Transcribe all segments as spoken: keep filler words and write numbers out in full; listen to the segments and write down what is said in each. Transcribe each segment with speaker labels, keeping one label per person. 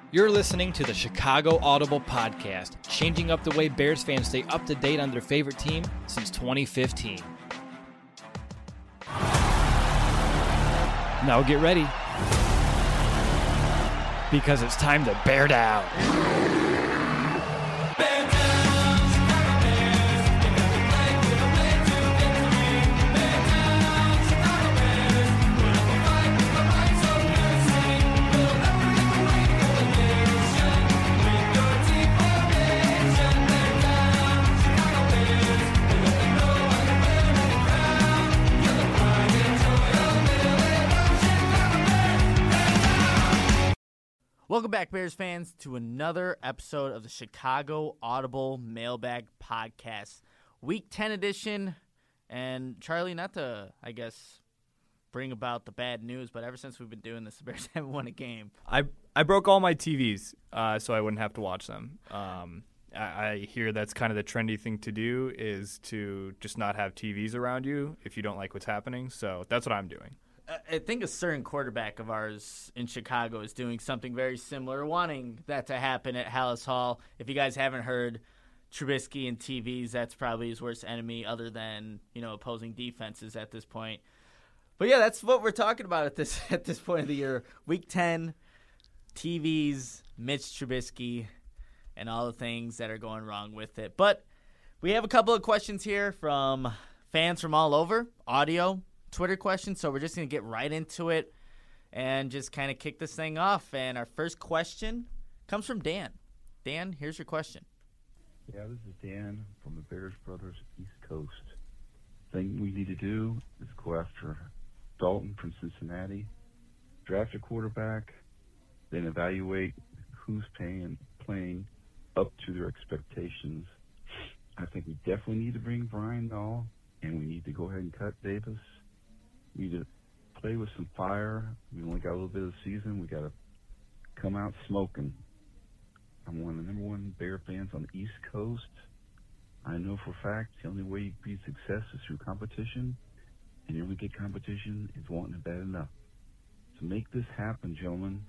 Speaker 1: You're listening to the Chicago Audible Podcast, changing up the way Bears fans stay up to date on their favorite team since twenty fifteen. Now get ready, because it's time to bear down.
Speaker 2: Welcome back, Bears fans, to another episode of the Chicago Audible Mailbag Podcast, Week ten edition. And Charlie, not to, I guess, bring about the bad news, but ever since we've been doing this, the Bears haven't won a game.
Speaker 3: I I broke all my T Vs uh, so I wouldn't have to watch them. Um, I, I hear that's kind of the trendy thing to do, is to just not have T Vs around you if you don't like what's happening. So that's what I'm doing.
Speaker 2: I think a certain quarterback of ours in Chicago is doing something very similar, wanting that to happen at Halas Hall. If you guys haven't heard, Trubisky and T Vs, that's probably his worst enemy other than, you know, opposing defenses at this point. But, yeah, that's what we're talking about at this at this point of the year. Week ten, T Vs, Mitch Trubisky, and all the things that are going wrong with it. But we have a couple of questions here from fans from all over, audio, Twitter questions, so we're just going to get right into it and just kind of kick this thing off. And our first question comes from Dan. Dan, here's your question.
Speaker 4: Yeah, this is Dan from the Bears Brothers East Coast. Thing we need to do is go after Dalton from Cincinnati, draft a quarterback, then evaluate who's paying, playing up to their expectations. I think we definitely need to bring Brian Dahl, and we need to go ahead and cut Davis. We need to play with some fire. We only got a little bit of the season. We got to come out smoking. I'm one of the number one Bear fans on the East Coast. I know for a fact the only way you beat success is through competition, and the only get competition is wanting it bad enough. To make this happen, gentlemen,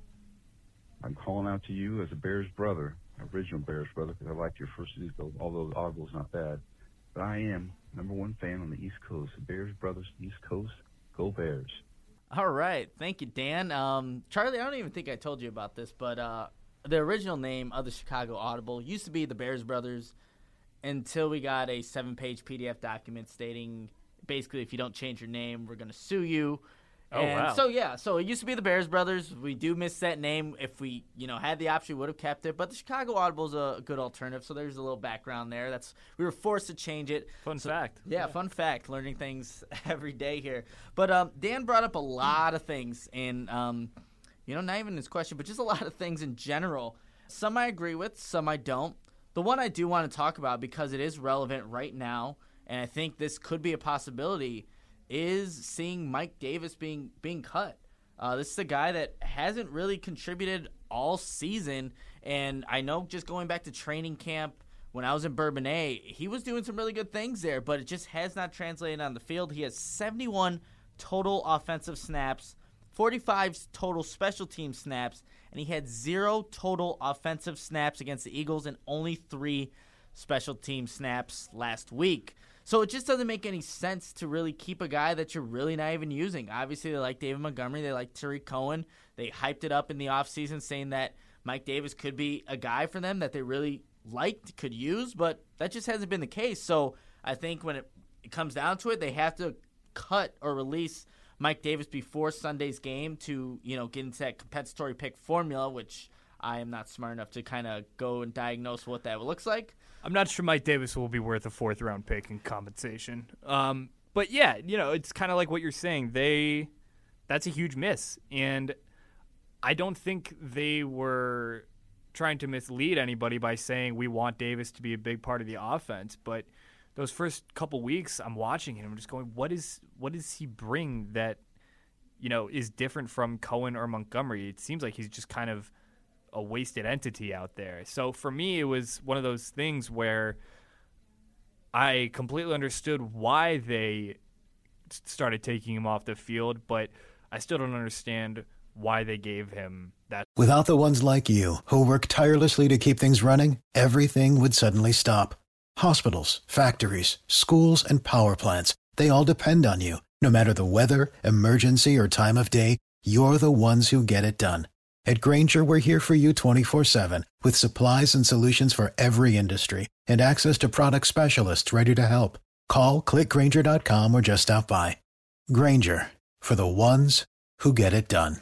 Speaker 4: I'm calling out to you as a Bears brother, original Bears brother, because I liked your first season, although Audible's not bad. But I am number one fan on the East Coast, the Bears Brothers East Coast. Go Bears.
Speaker 2: All right. Thank you, Dan. Um, Charlie, I don't even think I told you about this, but uh, the original name of the Chicago Audible used to be the Bears Brothers until we got a seven-page P D F document stating basically if you don't change your name, we're going to sue you.
Speaker 3: Oh,
Speaker 2: and
Speaker 3: wow.
Speaker 2: So, yeah, so it used to be the Bears Brothers. We do miss that name. If we, you know, had the option, we would have kept it. But the Chicago Audible is a good alternative, so there's a little background there. That's We were forced to change it.
Speaker 3: Fun
Speaker 2: so,
Speaker 3: fact.
Speaker 2: Yeah, yeah, fun fact. Learning things every day here. But um, Dan brought up a lot of things, and, um, you know, not even his question, but just a lot of things in general. Some I agree with, some I don't. The one I do want to talk about, because it is relevant right now, and I think this could be a possibility, is seeing Mike Davis being being cut. Uh, this is a guy that hasn't really contributed all season, and I know just going back to training camp when I was in Bourbonnais, he was doing some really good things there, but it just has not translated on the field. He has seventy-one total offensive snaps, forty-five total special team snaps, and he had zero total offensive snaps against the Eagles and only three special team snaps last week. So it just doesn't make any sense to really keep a guy that you're really not even using. Obviously, they like David Montgomery. They like Tariq Cohen. They hyped it up in the offseason saying that Mike Davis could be a guy for them that they really liked, could use, but that just hasn't been the case. So I think when it, it comes down to it, they have to cut or release Mike Davis before Sunday's game to, you know, get into that compensatory pick formula, which I am not smart enough to kind of go and diagnose what that looks like.
Speaker 3: I'm not sure Mike Davis will be worth a fourth-round pick in compensation. Um, but, yeah, you know, it's kind of like what you're saying. They That's a huge miss. And I don't think they were trying to mislead anybody by saying we want Davis to be a big part of the offense. But those first couple weeks I'm watching him, I'm just going, what is what does he bring that, you know, is different from Cohen or Montgomery? It seems like he's just kind of a wasted entity out there. So for me, it was one of those things where I completely understood why they started taking him off the field, but I still don't understand why they gave him that.
Speaker 5: Without the ones like you, who work tirelessly to keep things running, everything would suddenly stop. Hospitals, factories, schools, and power plants, they all depend on you. No matter the weather, emergency, or time of day, you're the ones who get it done. At Grainger, we're here for you twenty-four seven, with supplies and solutions for every industry, and access to product specialists ready to help. Call, click Grainger dot com, or just stop by. Grainger, for the ones who get it done.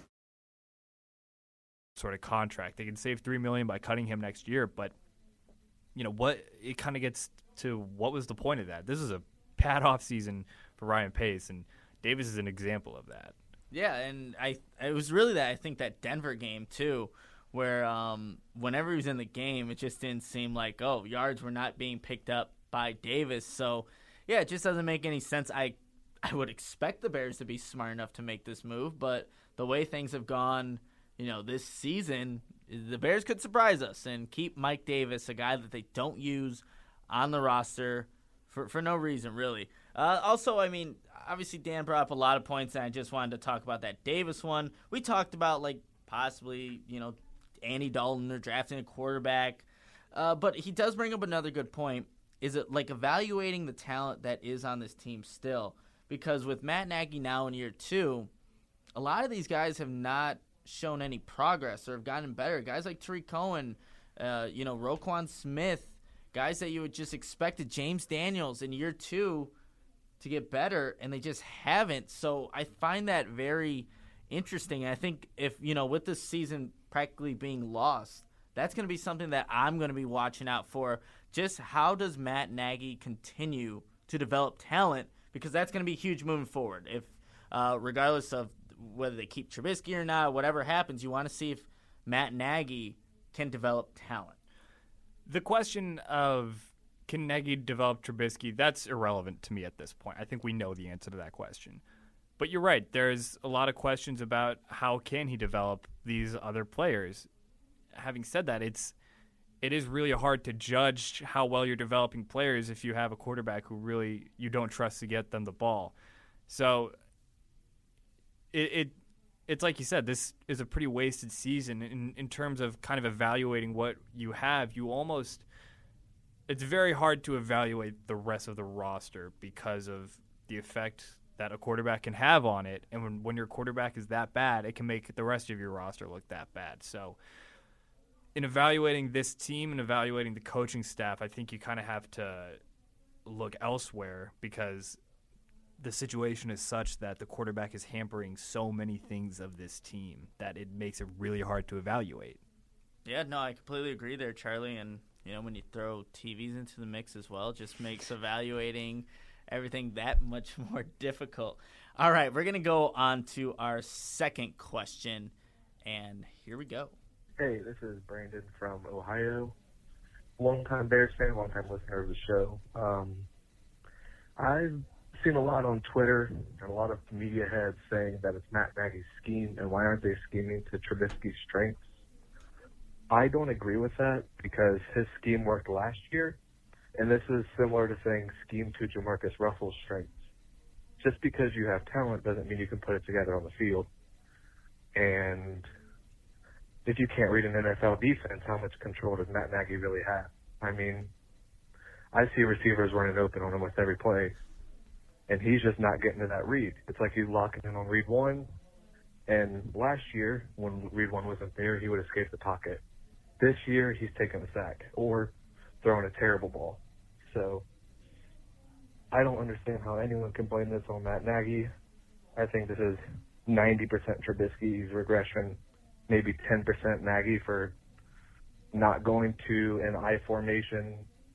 Speaker 3: Sort of contract. They can save three million dollars by cutting him next year, but you know what? It kind of gets to what was the point of that? This is a bad offseason for Ryan Pace, and Davis is an example of that.
Speaker 2: Yeah, and I it was really that I think that Denver game too, where um, whenever he was in the game, it just didn't seem like, oh, yards were not being picked up by Davis. So yeah, it just doesn't make any sense. I I would expect the Bears to be smart enough to make this move, but the way things have gone, you know, this season, the Bears could surprise us and keep Mike Davis, a guy that they don't use on the roster for for no reason, really. Uh, also, I mean, obviously Dan brought up a lot of points, and I just wanted to talk about that Davis one. We talked about, like, possibly, you know, Andy Dalton or drafting a quarterback. Uh, but he does bring up another good point. Is it, like, evaluating the talent that is on this team still? Because with Matt Nagy now in year two, a lot of these guys have not shown any progress or have gotten better. Guys like Tariq Cohen, uh, you know, Roquan Smith, guys that you would just expected, James Daniels in year two to get better, and they just haven't. So I find that very interesting. And I think if, you know, with this season practically being lost, that's going to be something that I'm going to be watching out for. Just how does Matt Nagy continue to develop talent? Because that's going to be huge moving forward. If, uh, regardless of whether they keep Trubisky or not, whatever happens, you want to see if Matt Nagy can develop talent.
Speaker 3: The question of can Nagy develop Trubisky, that's irrelevant to me at this point. I think we know the answer to that question. But you're right. There's a lot of questions about how can he develop these other players. Having said that, it's it is really hard to judge how well you're developing players if you have a quarterback who really you don't trust to get them the ball. So it, it it's like you said, this is a pretty wasted season in, in terms of kind of evaluating what you have. You almost it's very hard to evaluate the rest of the roster because of the effect that a quarterback can have on it. And when, when your quarterback is that bad, it can make the rest of your roster look that bad. So in evaluating this team and evaluating the coaching staff, I think you kind of have to look elsewhere because the situation is such that the quarterback is hampering so many things of this team that it makes it really hard to evaluate.
Speaker 2: Yeah, no, I completely agree there, Charlie. And, you know, when you throw T Vs into the mix as well, it just makes evaluating everything that much more difficult. All right, we're going to go on to our second question, and here we go.
Speaker 6: Hey, this is Brandon from Ohio. Long-time Bears fan, long-time listener of the show. Um, I've seen a lot on Twitter and a lot of media heads saying that it's Matt Nagy's scheme, and why aren't they scheming to Trubisky's strengths? I don't agree with that because his scheme worked last year, and this is similar to saying scheme to Jamarcus Russell's strengths. Just because you have talent doesn't mean you can put it together on the field. And if you can't read an N F L defense, how much control does Matt Nagy really have? I mean, I see receivers running open on almost every play, and he's just not getting to that read. It's like he's locking in on read one, and last year, when read one wasn't there, he would escape the pocket. This year, he's taking a sack or throwing a terrible ball. So I don't understand how anyone can blame this on Matt Nagy. I think this is ninety percent Trubisky's regression, maybe ten percent Nagy for not going to an I formation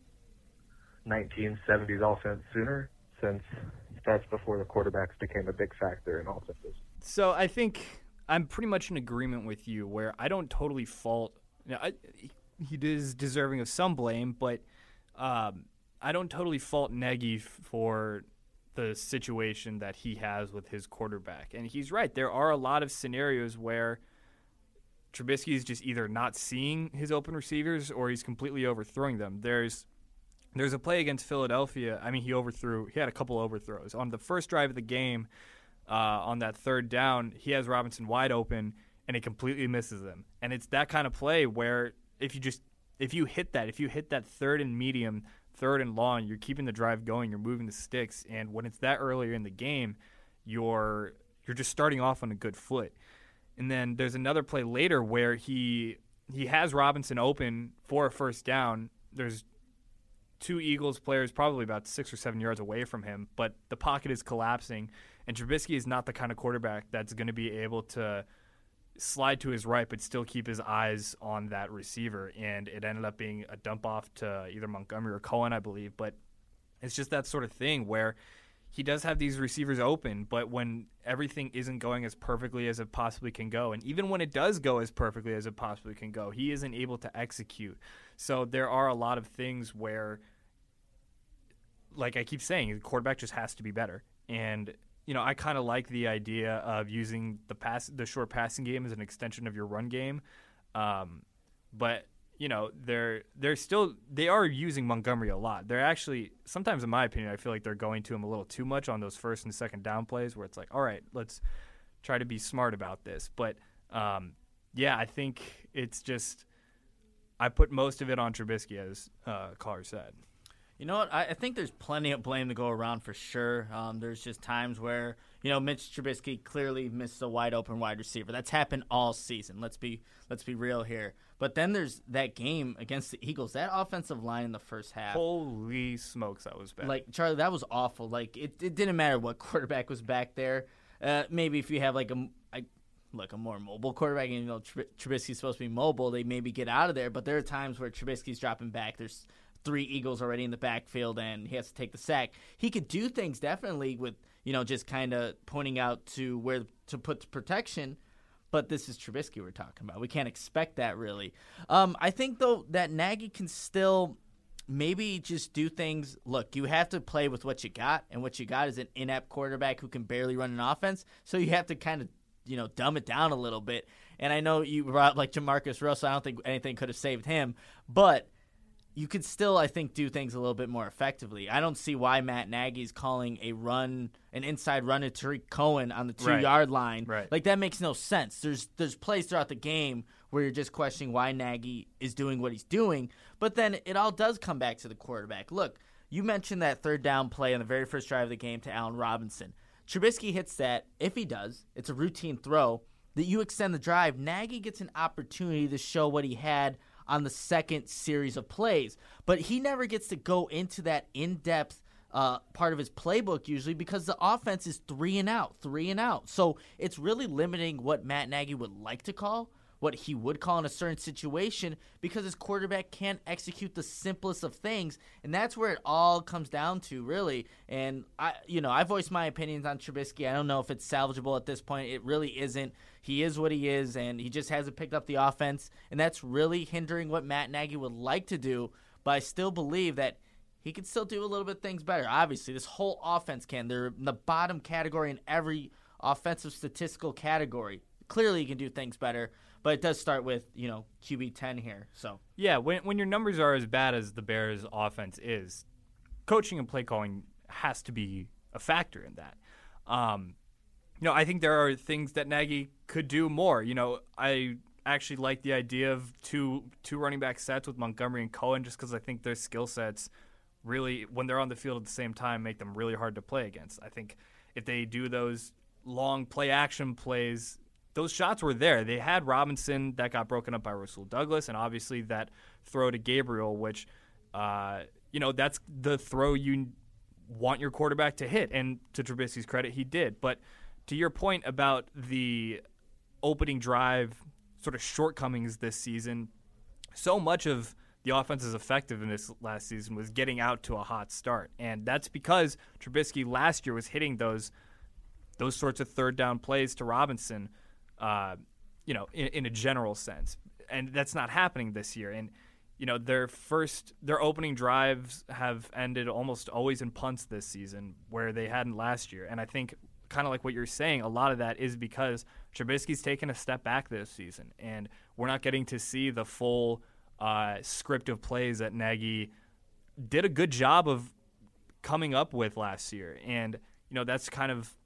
Speaker 6: nineteen seventies offense sooner, since that's before the quarterbacks became a big factor in offenses.
Speaker 3: So I think I'm pretty much in agreement with you where I don't totally fault you know, I, he is deserving of some blame, but um, I don't totally fault Nagy for the situation that he has with his quarterback. And he's right. There are a lot of scenarios where Trubisky is just either not seeing his open receivers or he's completely overthrowing them. There's there's a play against Philadelphia. I mean, he overthrew. He had a couple overthrows. On the first drive of the game, uh, on that third down, he has Robinson wide open, and he completely misses him. And it's that kind of play where if you just if you hit that, if you hit that third and medium, third and long, you're keeping the drive going, you're moving the sticks, and when it's that earlier in the game, you're you're just starting off on a good foot. And then there's another play later where he he has Robinson open for a first down. There's two Eagles players probably about six or seven yards away from him, but the pocket is collapsing, and Trubisky is not the kind of quarterback that's going to be able to slide to his right but still keep his eyes on that receiver, and it ended up being a dump off to either Montgomery or Cohen, I believe. But it's just that sort of thing where he does have these receivers open, but when everything isn't going as perfectly as it possibly can go, and even when it does go as perfectly as it possibly can go, he isn't able to execute. So there are a lot of things where, like I keep saying, the quarterback just has to be better. And you know, I kind of like the idea of using the pass, the short passing game as an extension of your run game. Um, but you know, they're they're still they are using Montgomery a lot. They're actually sometimes, in my opinion, I feel like they're going to him a little too much on those first and second down plays, where it's like, all right, let's try to be smart about this. But um, yeah, I think it's just I put most of it on Trubisky, as uh, caller said.
Speaker 2: You know what? I, I think there's plenty of blame to go around for sure. Um, there's just times where, you know, Mitch Trubisky clearly missed a wide open wide receiver. That's happened all season. Let's be let's be real here. But then there's that game against the Eagles. That offensive line in the first half.
Speaker 3: Holy smokes, that was bad.
Speaker 2: Like, Charlie, that was awful. Like, it, it didn't matter what quarterback was back there. Uh, maybe if you have like a, a look a more mobile quarterback, and you know Trub- Trubisky's supposed to be mobile, they maybe get out of there. But there are times where Trubisky's dropping back. There's three Eagles already in the backfield, and he has to take the sack. He could do things definitely with, you know, just kind of pointing out to where to put the protection, but this is Trubisky we're talking about. We can't expect that, really. Um, I think, though, that Nagy can still maybe just do things. Look, you have to play with what you got, and what you got is an inept quarterback who can barely run an offense, so you have to kind of, you know, dumb it down a little bit. And I know you brought, like, Jamarcus Russell. I don't think anything could have saved him, but you could still, I think, do things a little bit more effectively. I don't see why Matt Nagy's calling a run, an inside run to Tariq Cohen on the two-yard
Speaker 3: right.
Speaker 2: line.
Speaker 3: Right.
Speaker 2: Like, that makes no sense. There's there's plays throughout the game where you're just questioning why Nagy is doing what he's doing, but then it all does come back to the quarterback. Look, you mentioned that third down play on the very first drive of the game to Allen Robinson. Trubisky hits that. If he does, it's a routine throw that you extend the drive. Nagy gets an opportunity to show what he had on the second series of plays. But he never gets to go into that in-depth uh, part of his playbook usually because the offense is three and out, three and out. So it's really limiting what Matt Nagy would like to call, what he would call in a certain situation, because his quarterback can't execute the simplest of things, and that's where it all comes down to, really. And I, you know, I voiced my opinions on Trubisky. I don't know if it's salvageable at this point. It really isn't. He is what he is, and he just hasn't picked up the offense, and that's really hindering what Matt Nagy would like to do. But I still believe that he can still do a little bit things better. Obviously, this whole offense can. They're in the bottom category in every offensive statistical category. Clearly, he can do things better. But it does start with, you know, Q B ten here. So
Speaker 3: yeah, when when your numbers are as bad as the Bears' offense is, coaching and play calling has to be a factor in that. Um, you know, I think there are things that Nagy could do more. You know, I actually like the idea of two two running back sets with Montgomery and Cohen, just because I think their skill sets really, when they're on the field at the same time, make them really hard to play against. I think if they do those long play action plays, those shots were there. They had Robinson that got broken up by Rasul Douglas, and obviously that throw to Gabriel, which, uh, you know, that's the throw you want your quarterback to hit. And to Trubisky's credit, he did. But to your point about the opening drive sort of shortcomings this season, so much of the offense's effectiveness last season was getting out to a hot start. And that's because Trubisky last year was hitting those those sorts of third down plays to Robinson, Uh, you know, in, in a general sense, and that's not happening this year. And you know, their first, their opening drives have ended almost always in punts this season, where they hadn't last year. And I think, kind of like what you're saying, a lot of that is because Trubisky's taken a step back this season, and we're not getting to see the full uh, script of plays that Nagy did a good job of coming up with last year. And you know, that's kind of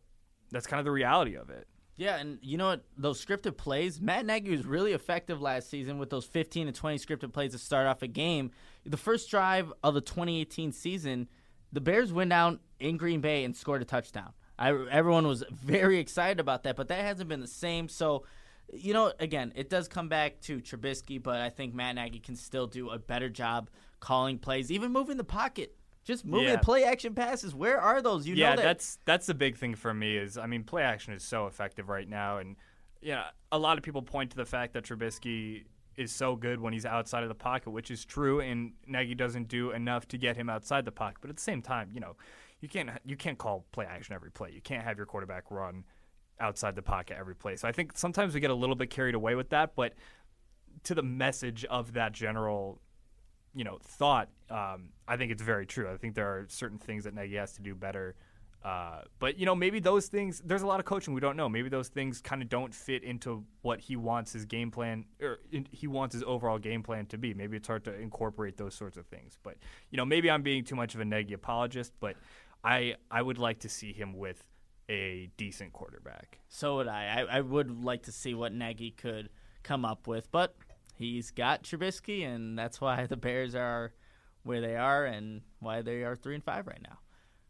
Speaker 3: that's kind of the reality of it.
Speaker 2: Yeah, and you know what? Those scripted plays, Matt Nagy was really effective last season with those fifteen to twenty scripted plays to start off a game. The first drive of the twenty eighteen season, the Bears went down in Green Bay and scored a touchdown. I, everyone was very excited about that, but that hasn't been the same. So, you know, again, it does come back to Trubisky, but I think Matt Nagy can still do a better job calling plays, even moving the pocket. Just moving
Speaker 3: Yeah.
Speaker 2: the play action passes. Where are those? You
Speaker 3: yeah,
Speaker 2: know that.
Speaker 3: that's that's the big thing for me is, I mean, play action is so effective right now. And, yeah, a lot of people point to the fact that Trubisky is so good when he's outside of the pocket, which is true, and Nagy doesn't do enough to get him outside the pocket. But at the same time, you know, you can't you can't call play action every play. You can't have your quarterback run outside the pocket every play. So I think sometimes we get a little bit carried away with that, but to the message of that general, you know, thought, um, I think it's very true. I think there are certain things that Nagy has to do better. Uh, but, you know, maybe those things, there's a lot of coaching we don't know. Maybe those things kind of don't fit into what he wants his game plan, or in, he wants his overall game plan to be. Maybe it's hard to incorporate those sorts of things. But, you know, maybe I'm being too much of a Nagy apologist, but I, I would like to see him with a decent quarterback.
Speaker 2: So would I. I. I would like to see what Nagy could come up with, but he's got Trubisky, and that's why the Bears are where they are and why they are three and five right now.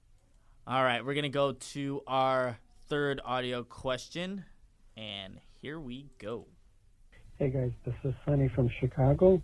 Speaker 2: All right, we're gonna go to our third audio question, and here we go.
Speaker 7: Hey guys, this is Sunny from Chicago.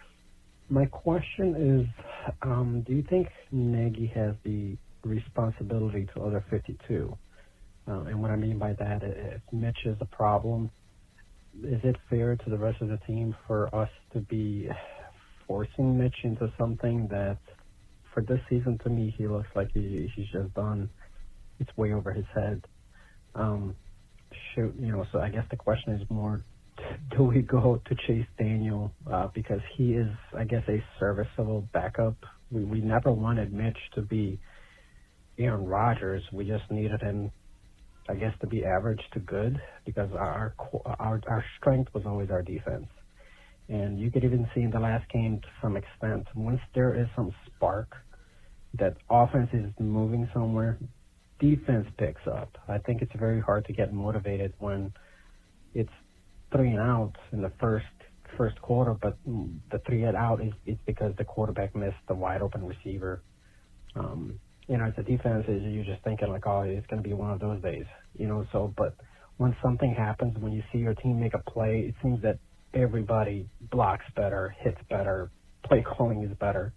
Speaker 7: My question is, um, do you think Nagy has the responsibility to other fifty-two? Uh, and what I mean by that, if Mitch is a problem, is it fair to the rest of the team for us to be forcing Mitch into something that, for this season, to me, he looks like he, he's just done. It's way over his head. Um, shoot, you know. So I guess the question is more: do we go to Chase Daniel uh, because he is, I guess, a serviceable backup? We we never wanted Mitch to be Aaron Rodgers. We just needed him, I guess, to be average to good, because our our our strength was always our defense. And you could even see in the last game to some extent, once there is some spark that offense is moving somewhere, defense picks up. I think it's very hard to get motivated when it's three and out in the first first quarter, but the three and out is it's because the quarterback missed the wide open receiver. Um, you know, as a defense, you're just thinking like, oh, it's going to be one of those days, you know. So, but when something happens, when you see your team make a play, it seems that everybody blocks better, hits better, play calling is better.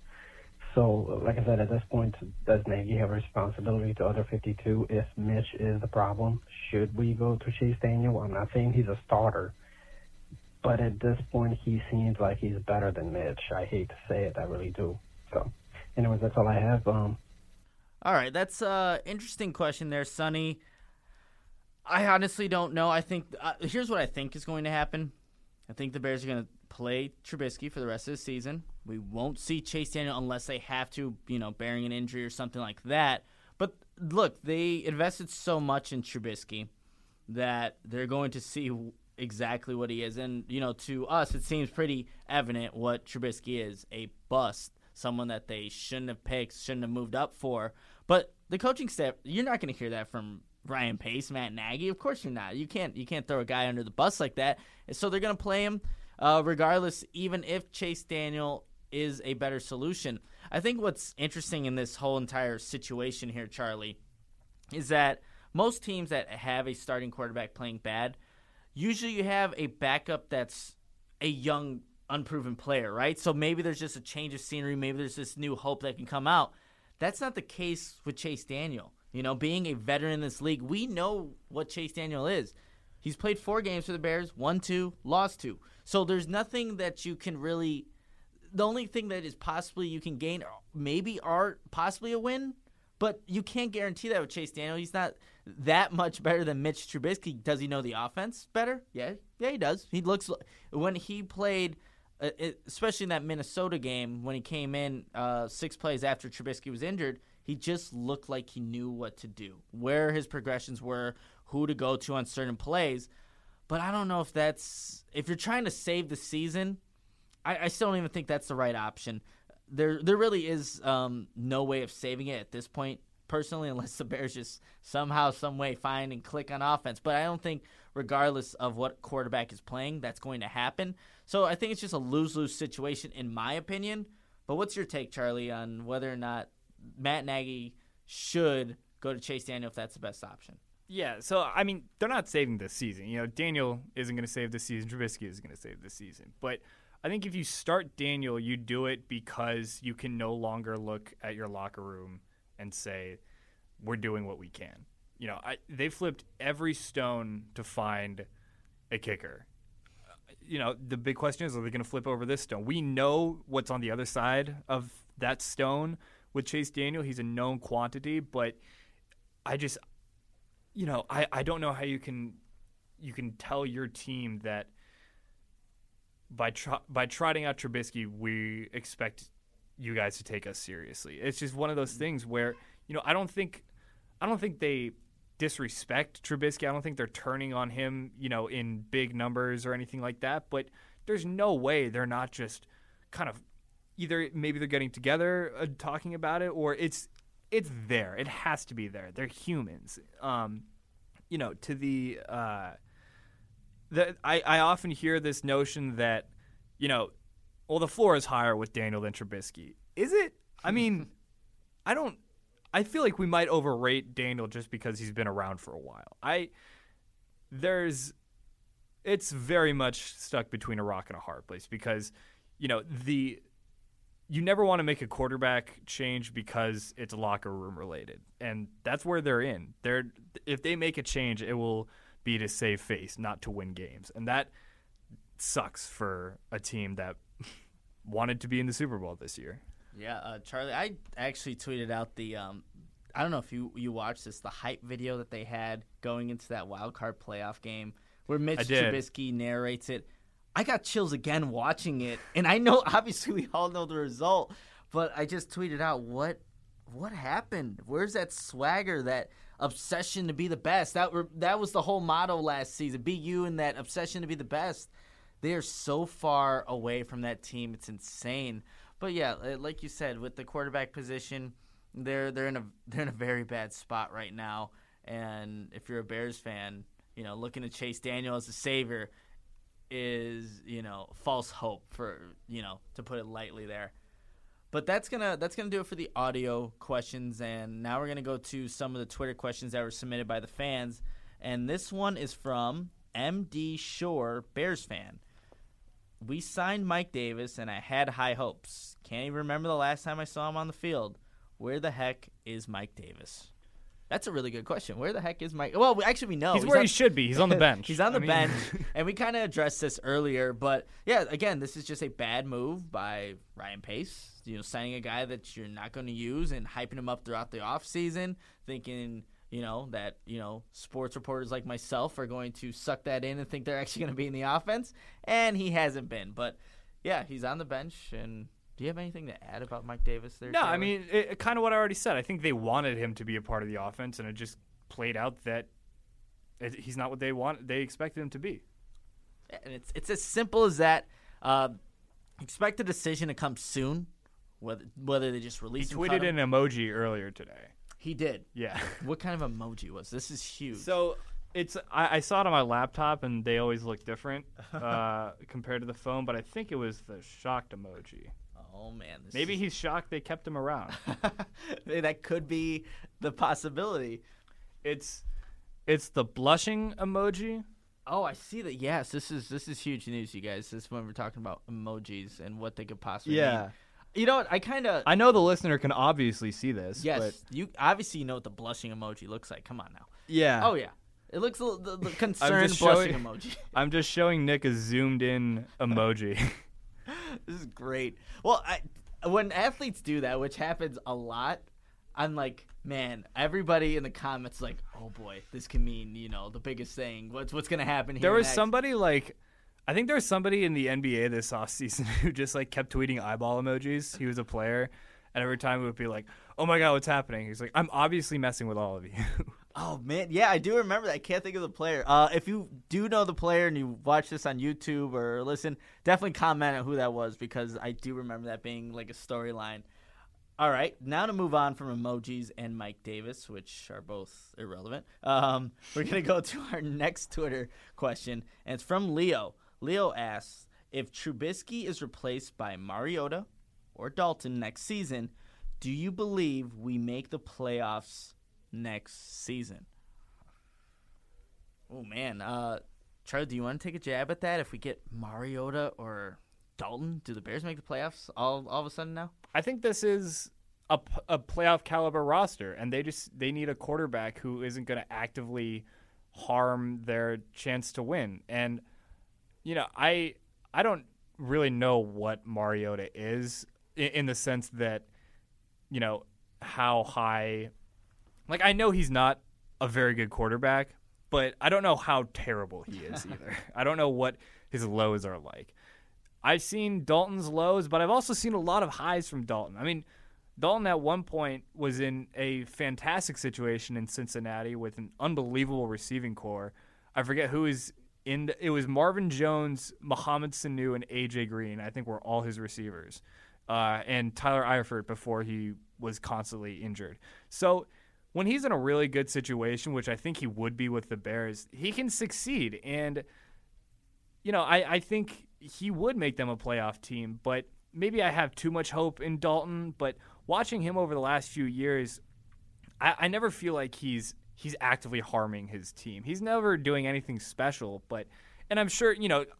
Speaker 7: So, like I said, at this point, does Nagy have a responsibility to other fifty-two if Mitch is the problem? Should we go to Chase Daniel? I'm not saying he's a starter, but at this point, he seems like he's better than Mitch. I hate to say it, I really do. So, anyways, that's all I have. Um,
Speaker 2: All right, that's an interesting question there, Sonny. I honestly don't know. I think uh, here's what I think is going to happen. I think the Bears are going to play Trubisky for the rest of the season. We won't see Chase Daniel unless they have to, you know, bearing an injury or something like that. But look, they invested so much in Trubisky that they're going to see exactly what he is. And, you know, to us, it seems pretty evident what Trubisky is, a bust, someone that they shouldn't have picked, shouldn't have moved up for. But the coaching staff, you're not going to hear that from Ryan Pace, Matt Nagy. Of course you're not. You can't you can't throw a guy under the bus like that. And so they're going to play him uh, regardless, even if Chase Daniel is a better solution. I think what's interesting in this whole entire situation here, Charlie, is that most teams that have a starting quarterback playing bad, usually you have a backup that's a young, unproven player, right? So maybe there's just a change of scenery. Maybe there's this new hope that can come out. That's not the case with Chase Daniel. You know, being a veteran in this league, we know what Chase Daniel is. He's played four games for the Bears, won two, lost two. So there's nothing that you can really – the only thing that is possibly you can gain maybe are possibly a win, but you can't guarantee that with Chase Daniel. He's not that much better than Mitch Trubisky. Does he know the offense better? Yeah, yeah, he does. He looks – when he played uh, – especially in that Minnesota game when he came in uh, six plays after Trubisky was injured – he just looked like he knew what to do, where his progressions were, who to go to on certain plays. But I don't know if that's – if you're trying to save the season, I, I still don't even think that's the right option. There there really is um, no way of saving it at this point personally, unless the Bears just somehow, some way find and click on offense. But I don't think, regardless of what quarterback is playing, that's going to happen. So I think it's just a lose-lose situation, in my opinion. But what's your take, Charlie, on whether or not Matt Nagy should go to Chase Daniel if that's the best option?
Speaker 3: Yeah, so, I mean, they're not saving this season. You know, Daniel isn't going to save this season. Trubisky isn't going to save this season. But I think if you start Daniel, you do it because you can no longer look at your locker room and say, we're doing what we can. You know, I, they flipped every stone to find a kicker. You know, the big question is, are they going to flip over this stone? We know what's on the other side of that stone with Chase Daniel. He's a known quantity, but I just – you know, I, I don't know how you can you can tell your team that by tr- by trotting out Trubisky, we expect you guys to take us seriously. It's just one of those things where, you know, I don't think I don't think they disrespect Trubisky. I don't think they're turning on him, you know, in big numbers or anything like that. But there's no way they're not just kind of either maybe they're getting together uh, talking about it, or it's It's there. It has to be there. They're humans. Um, you know, to the, uh, the I, I often hear this notion that, you know, well, the floor is higher with Daniel than Trubisky. Is it? I mean, I don't – I feel like we might overrate Daniel just because he's been around for a while. I – there's – it's very much stuck between a rock and a hard place because, you know, the – you never want to make a quarterback change because it's locker room related, and that's where they're in. They're if they make a change, it will be to save face, not to win games, and that sucks for a team that wanted to be in the Super Bowl this year.
Speaker 2: Yeah, uh, Charlie, I actually tweeted out the um, I don't know if you you watched this, the hype video that they had going into that wild card playoff game where Mitch Trubisky narrates it. I got chills again watching it, and I know obviously we all know the result, but I just tweeted out what what happened? Where's that swagger, that obsession to be the best? That were, that was the whole motto last season. Be you and that obsession to be the best. They are so far away from that team. It's insane. But yeah, like you said, with the quarterback position, they're they're in a they're in a very bad spot right now. And if you're a Bears fan, you know, looking at Chase Daniel as a savior is, you know, false hope, for, you know, to put it lightly there. But that's gonna that's gonna do it for the audio questions, and now we're gonna go to some of the Twitter questions that were submitted by the fans. And this one is from M D Shore, Bears fan. We signed Mike Davis, and I had high hopes. Can't even remember the last time I saw him on the field. Where the heck is Mike Davis? That's a really good question. Where the heck is Mike? Well, we, actually, we know.
Speaker 3: He's,
Speaker 2: he's
Speaker 3: where
Speaker 2: on,
Speaker 3: he should be. He's on the bench.
Speaker 2: He's on the
Speaker 3: I mean.
Speaker 2: bench, and we kind of addressed this earlier. But, yeah, again, this is just a bad move by Ryan Pace, you know, signing a guy that you're not going to use and hyping him up throughout the offseason, thinking, you know, that, you know, sports reporters like myself are going to suck that in and think they're actually going to be in the offense, and he hasn't been. But, yeah, he's on the bench, and – do you have anything to add about Mike Davis there?
Speaker 3: No,
Speaker 2: Taylor?
Speaker 3: I mean, it, kind of what I already said. I think they wanted him to be a part of the offense, and it just played out that it, he's not what they want. They expected him to be.
Speaker 2: And it's it's as simple as that. Uh, expect a decision to come soon, whether whether they just release.
Speaker 3: He tweeted an emoji earlier today.
Speaker 2: He did.
Speaker 3: Yeah.
Speaker 2: What kind of emoji was this? Is huge.
Speaker 3: So it's I, I saw it on my laptop, and they always look different uh, compared to the phone. But I think it was the shocked emoji.
Speaker 2: Oh, man. This
Speaker 3: Maybe
Speaker 2: is...
Speaker 3: he's shocked they kept him around.
Speaker 2: That could be the possibility.
Speaker 3: It's it's the blushing emoji.
Speaker 2: Oh, I see that. Yes, this is this is huge news, you guys. This is when we're talking about emojis and what they could possibly
Speaker 3: yeah.
Speaker 2: mean. You know what? I kind of...
Speaker 3: I know the listener can obviously see this.
Speaker 2: Yes.
Speaker 3: But...
Speaker 2: you obviously you know what the blushing emoji looks like. Come on now.
Speaker 3: Yeah.
Speaker 2: Oh, yeah. It looks the, the, the concerned blushing
Speaker 3: showing,
Speaker 2: emoji.
Speaker 3: I'm just showing Nick a zoomed-in emoji.
Speaker 2: This is great. Well, I, when athletes do that, which happens a lot, I'm like, man, everybody in the comments is like, oh boy, this can mean, you know, the biggest thing. What's what's gonna happen here?
Speaker 3: There was
Speaker 2: next?
Speaker 3: somebody like, I think there was somebody in the N B A this offseason who just like kept tweeting eyeball emojis. He was a player, and every time it would be like, oh my god, what's happening? He's like, I'm obviously messing with all of you.
Speaker 2: Oh, man. Yeah, I do remember that. I can't think of the player. Uh, if you do know the player and you watch this on YouTube or listen, definitely comment on who that was, because I do remember that being like a storyline. All right, now to move on from emojis and Mike Davis, which are both irrelevant, um, we're going to go to our next Twitter question, and it's from Leo. Leo asks, if Trubisky is replaced by Mariota or Dalton next season, do you believe we make the playoffs next season? Oh, man. Uh, Charlie, do you want to take a jab at that? If we get Mariota or Dalton, do the Bears make the playoffs all, all of a sudden now?
Speaker 3: I think this is a, a playoff caliber roster, and they just they need a quarterback who isn't going to actively harm their chance to win. And you know, I I don't really know what Mariota is in, in the sense that, you know, how high. Like, I know he's not a very good quarterback, but I don't know how terrible he is either. I don't know what his lows are like. I've seen Dalton's lows, but I've also seen a lot of highs from Dalton. I mean, Dalton at one point was in a fantastic situation in Cincinnati with an unbelievable receiving core. I forget who is in the, it was Marvin Jones, Mohamed Sanu, and A J Green, I think, were all his receivers. Uh, and Tyler Eifert before he was constantly injured. So when he's in a really good situation, which I think he would be with the Bears, he can succeed. And, you know, I, I think he would make them a playoff team, but maybe I have too much hope in Dalton. But watching him over the last few years, I, I never feel like he's he's actively harming his team. He's never doing anything special, but and I'm sure, you know,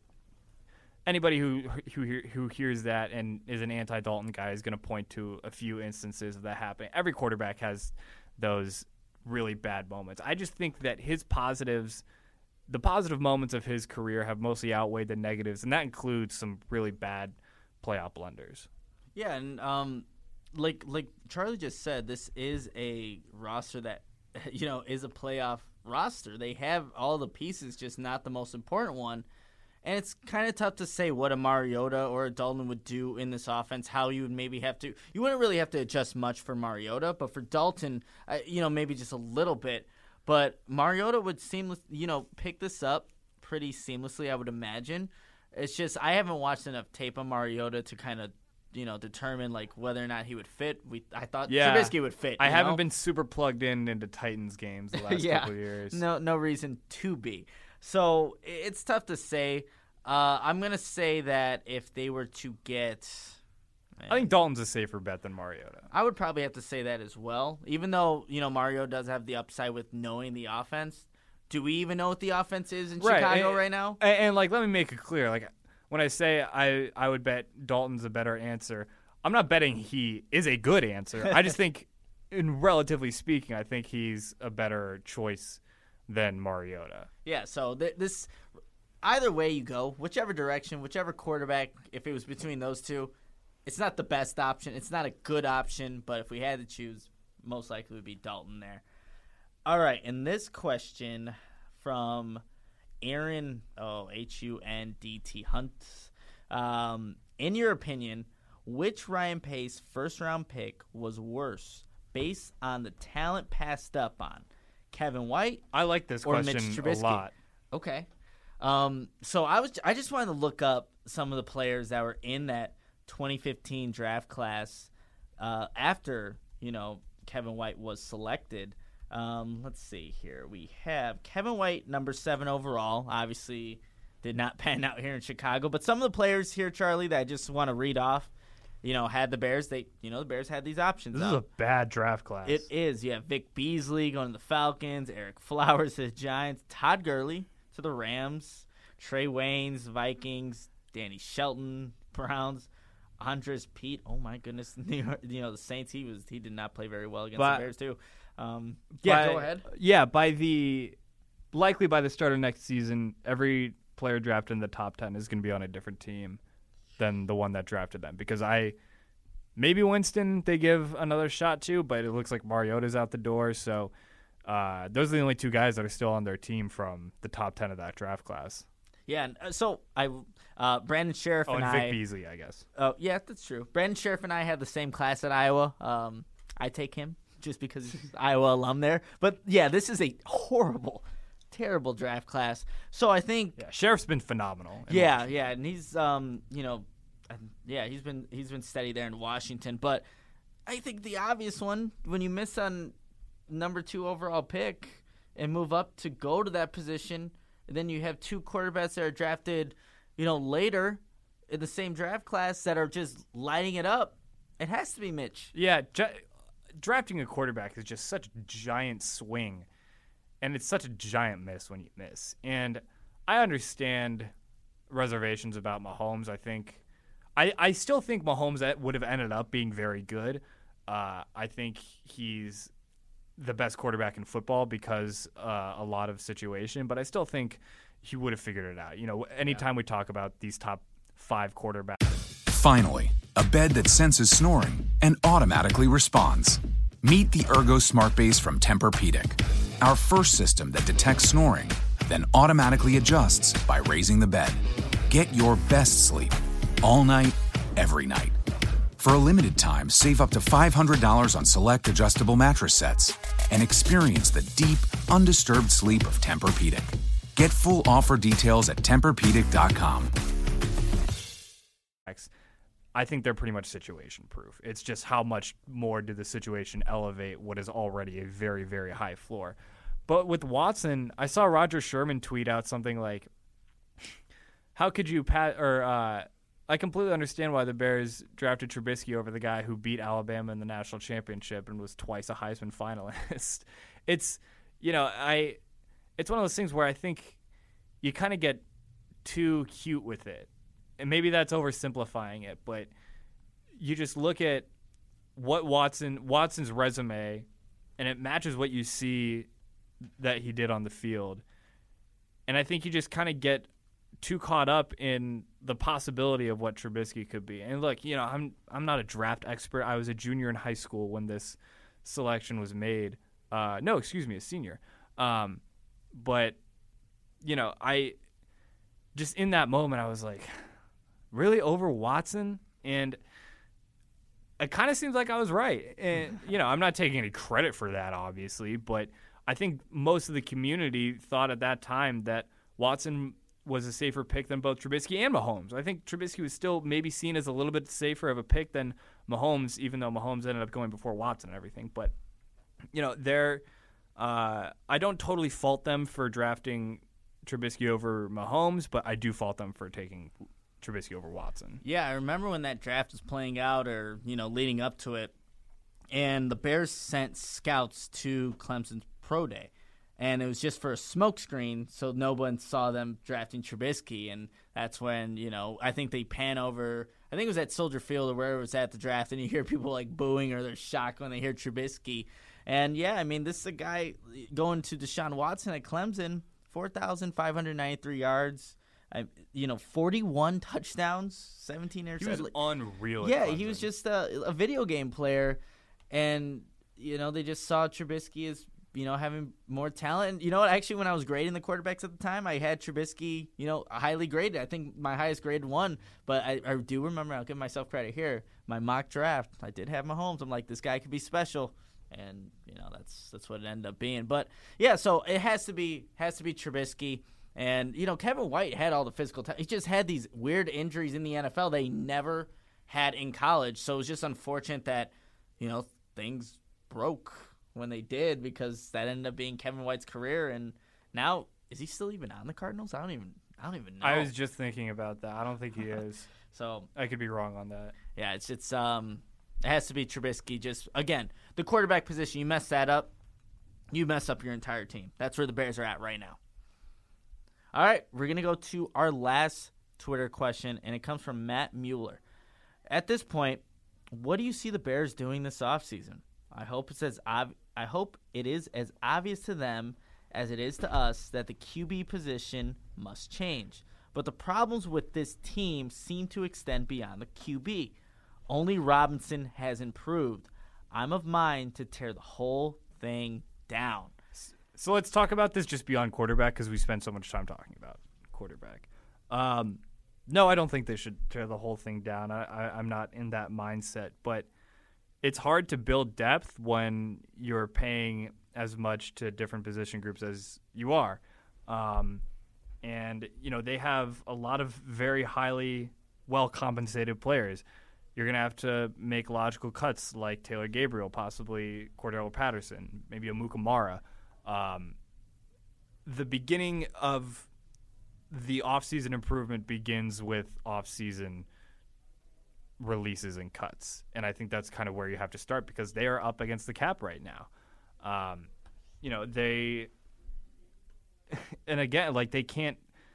Speaker 3: anybody who who who hears that and is an anti-Dalton guy is going to point to a few instances of that happening. Every quarterback has those really bad moments. I just think that his positives, the positive moments of his career have mostly outweighed the negatives, and that includes some really bad playoff blunders.
Speaker 2: Yeah, and um, like like Charlie just said, this is a roster that, you know, is a playoff roster. They have all the pieces, just not the most important one. And it's kind of tough to say what a Mariota or a Dalton would do in this offense, how you would maybe have to – you wouldn't really have to adjust much for Mariota, but for Dalton, uh, you know, maybe just a little bit. But Mariota would seamless, you know, pick this up pretty seamlessly, I would imagine. It's just I haven't watched enough tape on Mariota to kind of, you know, determine like whether or not he would fit. We I thought
Speaker 3: yeah.
Speaker 2: Trubisky would fit.
Speaker 3: I haven't
Speaker 2: know?
Speaker 3: been super plugged in into Titans games the last
Speaker 2: yeah.
Speaker 3: couple of years.
Speaker 2: No, no reason to be. So it's tough to say. Uh, I'm gonna say that if they were to get, man,
Speaker 3: I think Dalton's a safer bet than Mariota.
Speaker 2: I would probably have to say that as well. Even though, you know, Mario does have the upside with knowing the offense. Do we even know what the offense is in
Speaker 3: right.
Speaker 2: Chicago
Speaker 3: and,
Speaker 2: right now?
Speaker 3: And, and like, let me make it clear. Like, when I say I, I would bet Dalton's a better answer, I'm not betting he is a good answer. I just think, in relatively speaking, I think he's a better choice than Mariota.
Speaker 2: Yeah. So th- this, either way you go, whichever direction, whichever quarterback, if it was between those two, it's not the best option. It's not a good option. But if we had to choose, most likely it would be Dalton there. All right, and this question from Aaron, oh, H U N D T Hunt. Um, in your opinion, which Ryan Pace first-round pick was worse based on the talent passed up on? Kevin White
Speaker 3: I like this
Speaker 2: or
Speaker 3: question
Speaker 2: Mitch Trubisky?
Speaker 3: a lot.
Speaker 2: Okay. Um, so I was I just wanted to look up some of the players that were in that twenty fifteen draft class uh, after, you know, Kevin White was selected. Um, let's see here. We have Kevin White, number seven overall. Obviously, did not pan out here in Chicago. But some of the players here, Charlie, that I just want to read off, you know, had the Bears. They, you know, the Bears had these options.
Speaker 3: This
Speaker 2: out.
Speaker 3: is a bad draft class.
Speaker 2: It is. You have Vic Beasley going to the Falcons, Eric Flowers to the Giants, Todd Gurley to the Rams, Trey Waynes, Vikings, Danny Shelton, Browns, Andres Pete. Oh my goodness, New York, you know the Saints. He was he did not play very well against
Speaker 3: but,
Speaker 2: the Bears too. Um, yeah,
Speaker 3: by,
Speaker 2: go ahead.
Speaker 3: Yeah, by the likely by the start of next season, every player drafted in the top ten is going to be on a different team than the one that drafted them. Because I maybe Winston they give another shot to, but it looks like Mariota's out the door. So uh, those are the only two guys that are still on their team from the top ten of that draft class.
Speaker 2: Yeah, and, uh, so I, uh, Brandon Sheriff
Speaker 3: oh,
Speaker 2: and,
Speaker 3: and Vic
Speaker 2: I.
Speaker 3: Beasley, I guess.
Speaker 2: Oh, yeah, that's true. Brandon Sheriff and I had the same class at Iowa. Um, I take him just because he's Iowa alum there. But yeah, this is a horrible, terrible draft class. So I think.
Speaker 3: Yeah, Sheriff's been phenomenal.
Speaker 2: Yeah,
Speaker 3: Washington.
Speaker 2: yeah, and he's um, you know, yeah, he's been he's been steady there in Washington. But I think the obvious one, when you miss on number two overall pick and move up to go to that position, and then you have two quarterbacks that are drafted, you know, later in the same draft class that are just lighting it up, it has to be Mitch.
Speaker 3: Yeah, ju- drafting a quarterback is just such a giant swing, and it's such a giant miss when you miss. And I understand reservations about Mahomes. I think I, I still think Mahomes would have ended up being very good. Uh, I think he's the best quarterback in football because uh, a lot of situation, but I still think he would have figured it out. You know, anytime yeah. we talk about these top five quarterbacks.
Speaker 8: Finally, a bed that senses snoring and automatically responds. Meet the Ergo Smart Base from Tempur-Pedic, our first system that detects snoring, then automatically adjusts by raising the bed. Get your best sleep all night, every night. For a limited time, save up to five hundred dollars on select adjustable mattress sets and experience the deep, undisturbed sleep of Tempur-Pedic. Get full offer details at Tempur Pedic dot com.
Speaker 3: I think they're pretty much situation proof. It's just how much more did the situation elevate what is already a very, very high floor. But with Watson, I saw Roger Sherman tweet out something like, how could you pat or uh, I completely understand why the Bears drafted Trubisky over the guy who beat Alabama in the national championship and was twice a Heisman finalist. It's, you know, I, it's one of those things where I think you kind of get too cute with it. And maybe that's oversimplifying it, but you just look at what Watson, Watson's resume, and it matches what you see that he did on the field. And I think you just kind of get too caught up in the possibility of what Trubisky could be. And look, you know, I'm I'm not a draft expert. I was a junior in high school when this selection was made. Uh, no, excuse me, a senior. Um, but, you know, I just in that moment I was like, really, over Watson? And it kind of seems like I was right. And, you know, I'm not taking any credit for that, obviously, but I think most of the community thought at that time that Watson was a safer pick than both Trubisky and Mahomes. I think Trubisky was still maybe seen as a little bit safer of a pick than Mahomes, even though Mahomes ended up going before Watson and everything. But, you know, they're uh, I don't totally fault them for drafting Trubisky over Mahomes, but I do fault them for taking Trubisky over Watson.
Speaker 2: Yeah, I remember when that draft was playing out or, you know, leading up to it, and the Bears sent scouts to Clemson's pro day. And it was just for a smokescreen, so no one saw them drafting Trubisky. And that's when, you know, I think they pan over, I think it was at Soldier Field or wherever it was at the draft, and you hear people like booing or they're shocked when they hear Trubisky. And, yeah, I mean, this is a guy going to Deshaun Watson at Clemson, four thousand five hundred ninety-three yards. I, you know, forty-one touchdowns, seventeen interceptions.
Speaker 3: He was unreal.
Speaker 2: Yeah, he was just a, a video game player. And, you know, they just saw Trubisky as, you know, having more talent. And you know what? Actually, when I was grading the quarterbacks at the time, I had Trubisky, you know, highly graded. I think my highest grade one. But I, I do remember, I'll give myself credit here, my mock draft, I did have Mahomes. I'm like, this guy could be special. And, you know, that's that's what it ended up being. But, yeah, so it has to be has to be Trubisky. And, you know, Kevin White had all the physical t- – he just had these weird injuries in the N F L they never had in college. So it was just unfortunate that, you know, things broke when they did, because that ended up being Kevin White's career. And now, is he still even on the Cardinals? I don't even I don't even know.
Speaker 3: I was just thinking about that. I don't think he is.
Speaker 2: So
Speaker 3: I could be wrong on that.
Speaker 2: Yeah, it's it's um it has to be Trubisky. Just again, the quarterback position, you mess that up, you mess up your entire team. That's where the Bears are at right now. All right, we're going to go to our last Twitter question, and it comes from Matt Mueller. At this point, what do you see the Bears doing this offseason? I hope it's as ob- I hope it is as obvious to them as it is to us that the Q B position must change. But the problems with this team seem to extend beyond the Q B. Only Robinson has improved. I'm of mind to tear the whole thing down.
Speaker 3: So let's talk about this just beyond quarterback, because we spend so much time talking about quarterback. Um, no, I don't think they should tear the whole thing down. I, I, I'm not in that mindset. But it's hard to build depth when you're paying as much to different position groups as you are. Um, and, you know, they have a lot of very highly well-compensated players. you're going to have to make logical cuts like Taylor Gabriel, possibly Cordell Patterson, maybe a Mukamara. Um, the beginning of the offseason improvement begins with offseason releases and cuts. And I think that's kind of where you have to start because they are up against the cap right now. Um, you know, they – and again, like they can't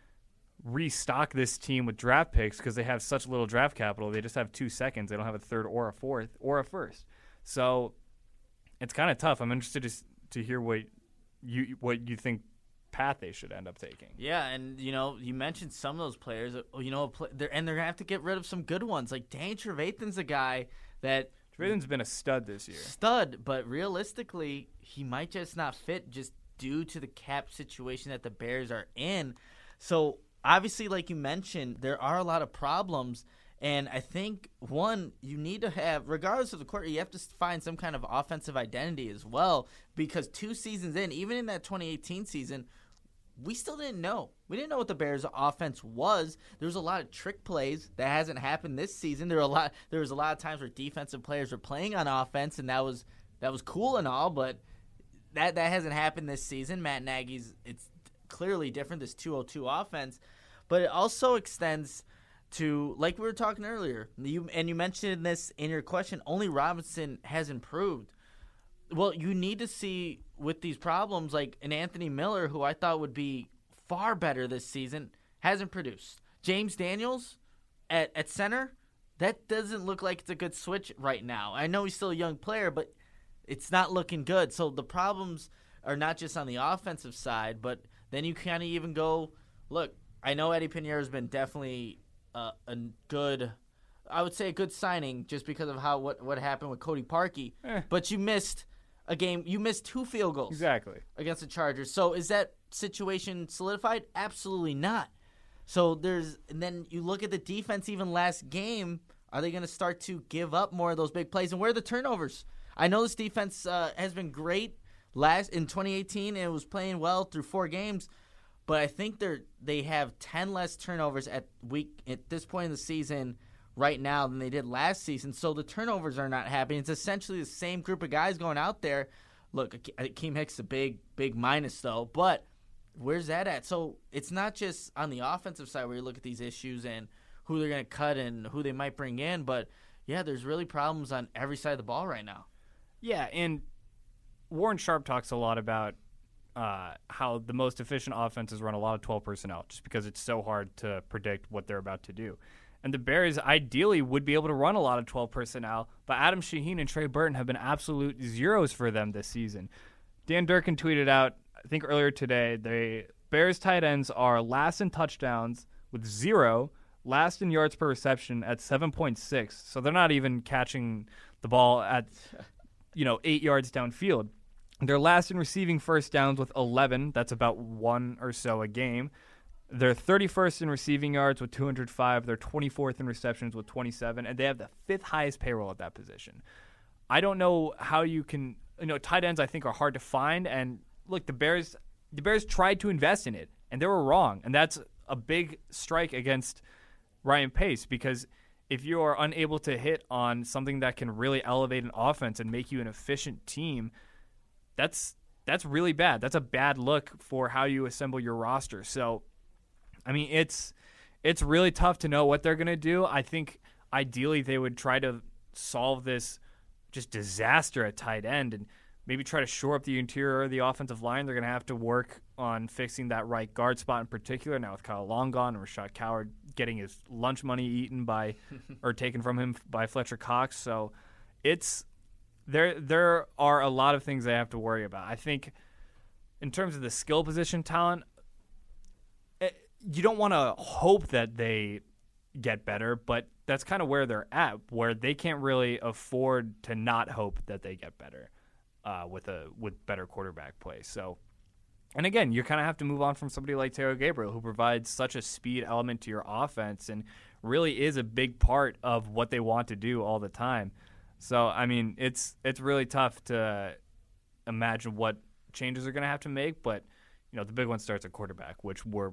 Speaker 3: restock this team with draft picks because they have such little draft capital. They just have two seconds. They don't have a third or a fourth or a first. So it's kind of tough. I'm interested to, to hear what you what you think path they should end up taking.
Speaker 2: Yeah, and you know, you mentioned some of those players. You know, they're, and they're gonna have to get rid of some good ones. Like Danny Trevathan's a guy that
Speaker 3: Trevathan's been a stud this year.
Speaker 2: Stud, but realistically, he might just not fit just due to the cap situation that the Bears are in. So obviously, like you mentioned, there are a lot of problems. And I think, one, you need to have, regardless of the quarter, you have to find some kind of offensive identity as well. Because two seasons in, even in that twenty eighteen season, we still didn't know. We didn't know what the Bears' offense was. There was a lot of trick plays that hasn't happened this season. There were a lot. There was a lot of times where defensive players were playing on offense, and that was that was cool and all, but that that hasn't happened this season. Matt Nagy's, it's clearly different, this two oh two offense. But it also extends to, like we were talking earlier, you and you mentioned this in your question, only Robinson has improved. Well, you need to see with these problems, like an Anthony Miller, who I thought would be far better this season, hasn't produced. James Daniels at, at center, that doesn't look like it's a good switch right now. I know he's still a young player, but it's not looking good. So the problems are not just on the offensive side, but then you kind of even go, look, I know Eddie Pinheiro has been definitely uh, a good, I would say a good signing just because of how what, what happened with Cody Parkey,
Speaker 3: eh.
Speaker 2: but you missed a game. You missed two field goals
Speaker 3: exactly
Speaker 2: against the Chargers. So is that situation solidified? Absolutely not. So there's, and then you look at the defense even last game. Are they going to start to give up more of those big plays? And where are the turnovers? I know this defense uh, has been great last in twenty eighteen and it was playing well through four games, but I think they're they have ten less turnovers at week at this point in the season right now than they did last season. So the turnovers are not happening. It's essentially the same group of guys going out there. Look, Akeem Hicks is a big, big minus, though. But where's that at? So it's not just on the offensive side where you look at these issues and who they're going to cut and who they might bring in. But, yeah, there's really problems on every side of the ball right now.
Speaker 3: Yeah, and Warren Sharp talks a lot about uh, how the most efficient offenses run a lot of twelve personnel just because it's so hard to predict what they're about to do. And the Bears ideally would be able to run a lot of twelve personnel, but Adam Shaheen and Trey Burton have been absolute zeros for them this season. Dan Durkin tweeted out, I think earlier today, the Bears tight ends are last in touchdowns with zero, last in yards per reception at seven point six. So they're not even catching the ball at, you know, eight yards downfield. They're last in receiving first downs with eleven. That's about one or so a game. They're thirty-first in receiving yards with two hundred five. They're twenty-fourth in receptions with twenty-seven. And they have the fifth highest payroll at that position. I don't know how you can – you know, tight ends I think are hard to find. And, look, the Bears the Bears tried to invest in it, and they were wrong. And that's a big strike against Ryan Pace because if you are unable to hit on something that can really elevate an offense and make you an efficient team, that's that's really bad. That's a bad look for how you assemble your roster. So – I mean, it's it's really tough to know what they're going to do. I think ideally they would try to solve this just disaster at tight end and maybe try to shore up the interior of the offensive line. They're going to have to work on fixing that right guard spot in particular. Now with Kyle Long gone and Rashad Coward getting his lunch money eaten by or taken from him by Fletcher Cox. So it's there there are a lot of things they have to worry about. I think in terms of the skill position talent, you don't want to hope that they get better, but that's kind of where they're at, where they can't really afford to not hope that they get better uh, with a with better quarterback play. So, and again, you kind of have to move on from somebody like Taylor Gabriel, who provides such a speed element to your offense and really is a big part of what they want to do all the time. So, I mean, it's it's really tough to imagine what changes they're going to have to make, but you know, the big one starts at quarterback, which we're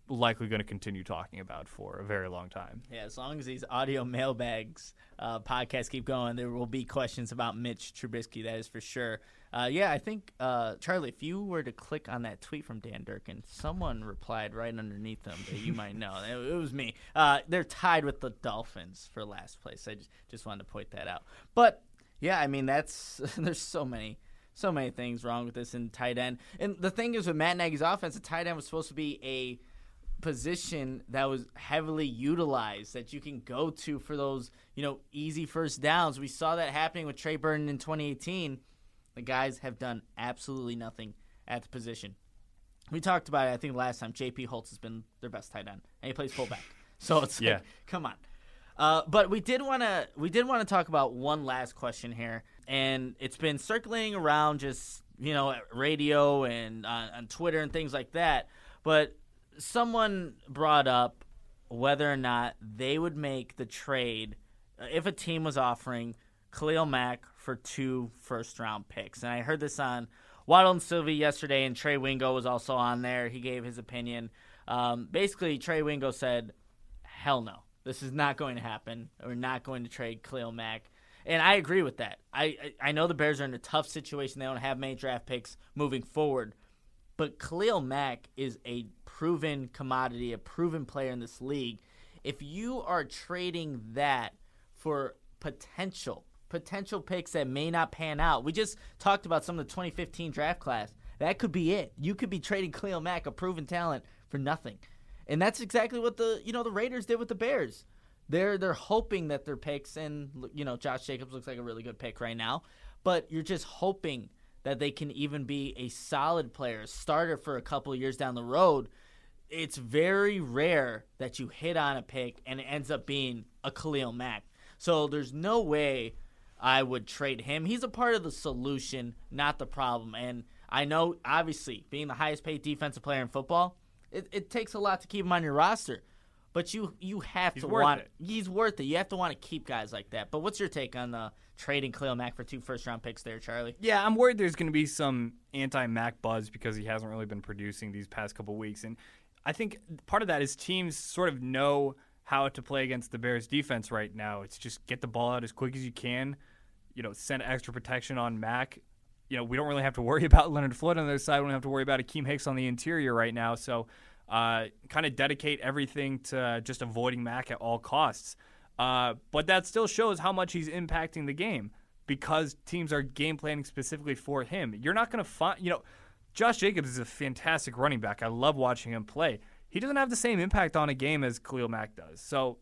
Speaker 3: likely going to continue talking about for a very long time.
Speaker 2: Yeah, as long as these audio mailbags uh, podcasts keep going, there will be questions about Mitch Trubisky, that is for sure. Uh, yeah, I think, uh, Charlie, if you were to click on that tweet from Dan Durkin, someone replied right underneath them that you might know. It, it was me. Uh, they're tied with the Dolphins for last place. I just, just wanted to point that out. But, yeah, I mean, that's there's so many so many things wrong with this in tight end. And the thing is with Matt Nagy's offense, the tight end was supposed to be a position that was heavily utilized that you can go to for those, you know, easy first downs. We saw that happening with Trey Burton in twenty eighteen. The guys have done absolutely nothing at the position. We talked about it, I think, last time. J P Holtz has been their best tight end, and he plays fullback. So it's
Speaker 3: yeah.
Speaker 2: like, come on. Uh, but we did want to we did want to talk about one last question here, and it's been circulating around just, you know, at radio and on, on Twitter and things like that. But someone brought up whether or not they would make the trade if a team was offering Khalil Mack for two first-round picks. And I heard this on Waddle and Sylvie yesterday, and Trey Wingo was also on there. He gave his opinion. Um, basically, Trey Wingo said, hell no. This is not going to happen. We're not going to trade Khalil Mack. And I agree with that. I, I I know the Bears are in a tough situation. They don't have many draft picks moving forward. But Khalil Mack is a proven commodity, a proven player in this league. If you are trading that for potential, potential picks that may not pan out, we just talked about some of the twenty fifteen draft class. That could be it. You could be trading Khalil Mack, a proven talent, for nothing. And that's exactly what the you know the Raiders did with the Bears. They're they're hoping that their picks, and you know Josh Jacobs looks like a really good pick right now, but you're just hoping that they can even be a solid player, a starter for a couple of years down the road. It's very rare that you hit on a pick and it ends up being a Khalil Mack. So there's no way I would trade him. He's a part of the solution, not the problem. And I know, obviously, being the highest paid defensive player in football, it, it takes a lot to keep him on your roster. But you you have
Speaker 3: He's
Speaker 2: to
Speaker 3: worth
Speaker 2: want
Speaker 3: it.
Speaker 2: He's worth it. You have to want to keep guys like that. But what's your take on the trading Khalil Mack for two first-round picks there, Charlie?
Speaker 3: Yeah, I'm worried there's going to be some anti-Mac buzz because he hasn't really been producing these past couple weeks. And I think part of that is teams sort of know how to play against the Bears defense right now. It's just get the ball out as quick as you can, you know, send extra protection on Mac. You know, we don't really have to worry about Leonard Floyd on the other side. We don't have to worry about Akeem Hicks on the interior right now. So uh, kind of dedicate everything to just avoiding Mac at all costs. Uh, but that still shows how much he's impacting the game because teams are game planning specifically for him. You're not going to find, you know, Josh Jacobs is a fantastic running back. I love watching him play. He doesn't have the same impact on a game as Khalil Mack does. So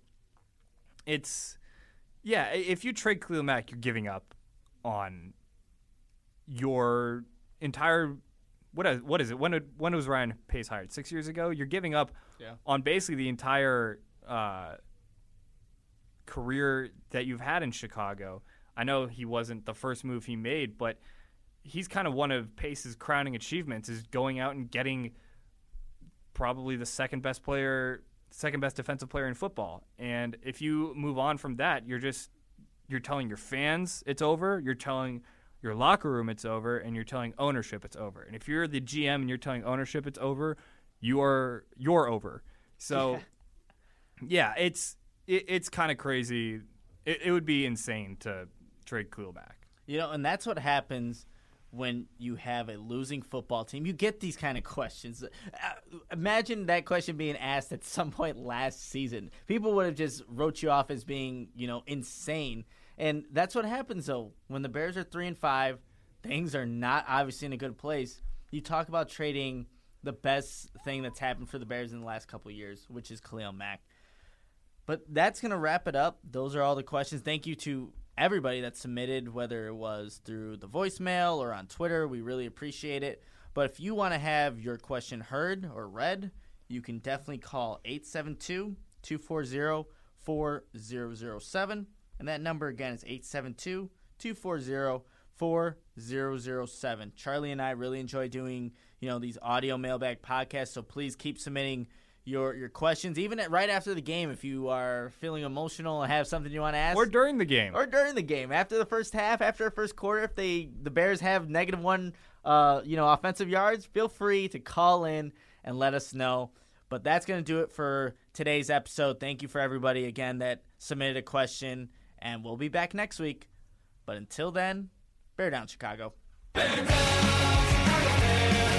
Speaker 3: it's, yeah, if you trade Khalil Mack, you're giving up on your entire, what is, what is it? When, did, when was Ryan Pace hired? Six years ago? You're giving up
Speaker 2: Yeah.
Speaker 3: on basically the entire uh, career that you've had in Chicago. I know he wasn't the first move he made, but he's kind of one of Pace's crowning achievements is going out and getting probably the second best player, second best defensive player in football. And if you move on from that, you're just you're telling your fans it's over, you're telling your locker room it's over, and you're telling ownership it's over. And if you're the G M and you're telling ownership it's over, you are you're over. So yeah, it's it, it's kind of crazy. It, it would be insane to trade Khalil Mack.
Speaker 2: You know, and that's what happens when you have a losing football team. You get these kind of questions. Uh, imagine that question being asked at some point last season. People would have just wrote you off as being, you know, insane. And that's what happens, though. When the Bears are three and five, things are not obviously in a good place. You talk about trading the best thing that's happened for the Bears in the last couple of years, which is Khalil Mack. But that's going to wrap it up. Those are all the questions. Thank you to everybody that submitted, whether it was through the voicemail or on Twitter. We really appreciate it. But if you want to have your question heard or read, you can definitely call eight seven two, two four zero, four zero zero seven. And that number again is eight seven two, two four zero, four zero zero seven. Charlie and I really enjoy doing, you know, these audio mailbag podcasts, so please keep submitting your your questions, even at, right after the game if you are feeling emotional and have something you want to ask.
Speaker 3: Or during the game.
Speaker 2: Or during the game. After the first half, after the first quarter, if they the Bears have negative one uh, you know, offensive yards, feel free to call in and let us know. But that's going to do it for today's episode. Thank you for everybody, again, that submitted a question, and we'll be back next week. But until then, bear down, Chicago. Bear down, Chicago Bears.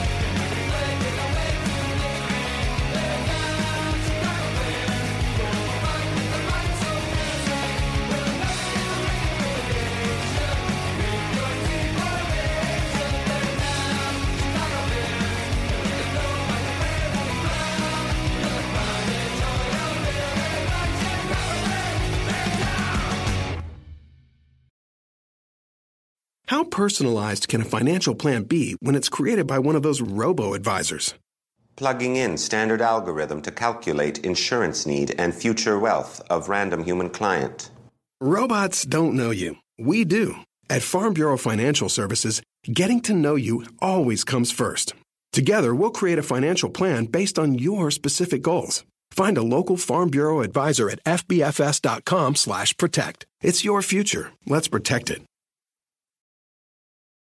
Speaker 9: How personalized can a financial plan be when it's created by one of those robo-advisors?
Speaker 10: Plugging in standard algorithm to calculate insurance need and future wealth of random human client.
Speaker 9: Robots don't know you. We do. At Farm Bureau Financial Services, getting to know you always comes first. Together, we'll create a financial plan based on your specific goals. Find a local Farm Bureau advisor at f b f s dot com slash protect. It's your future. Let's protect it.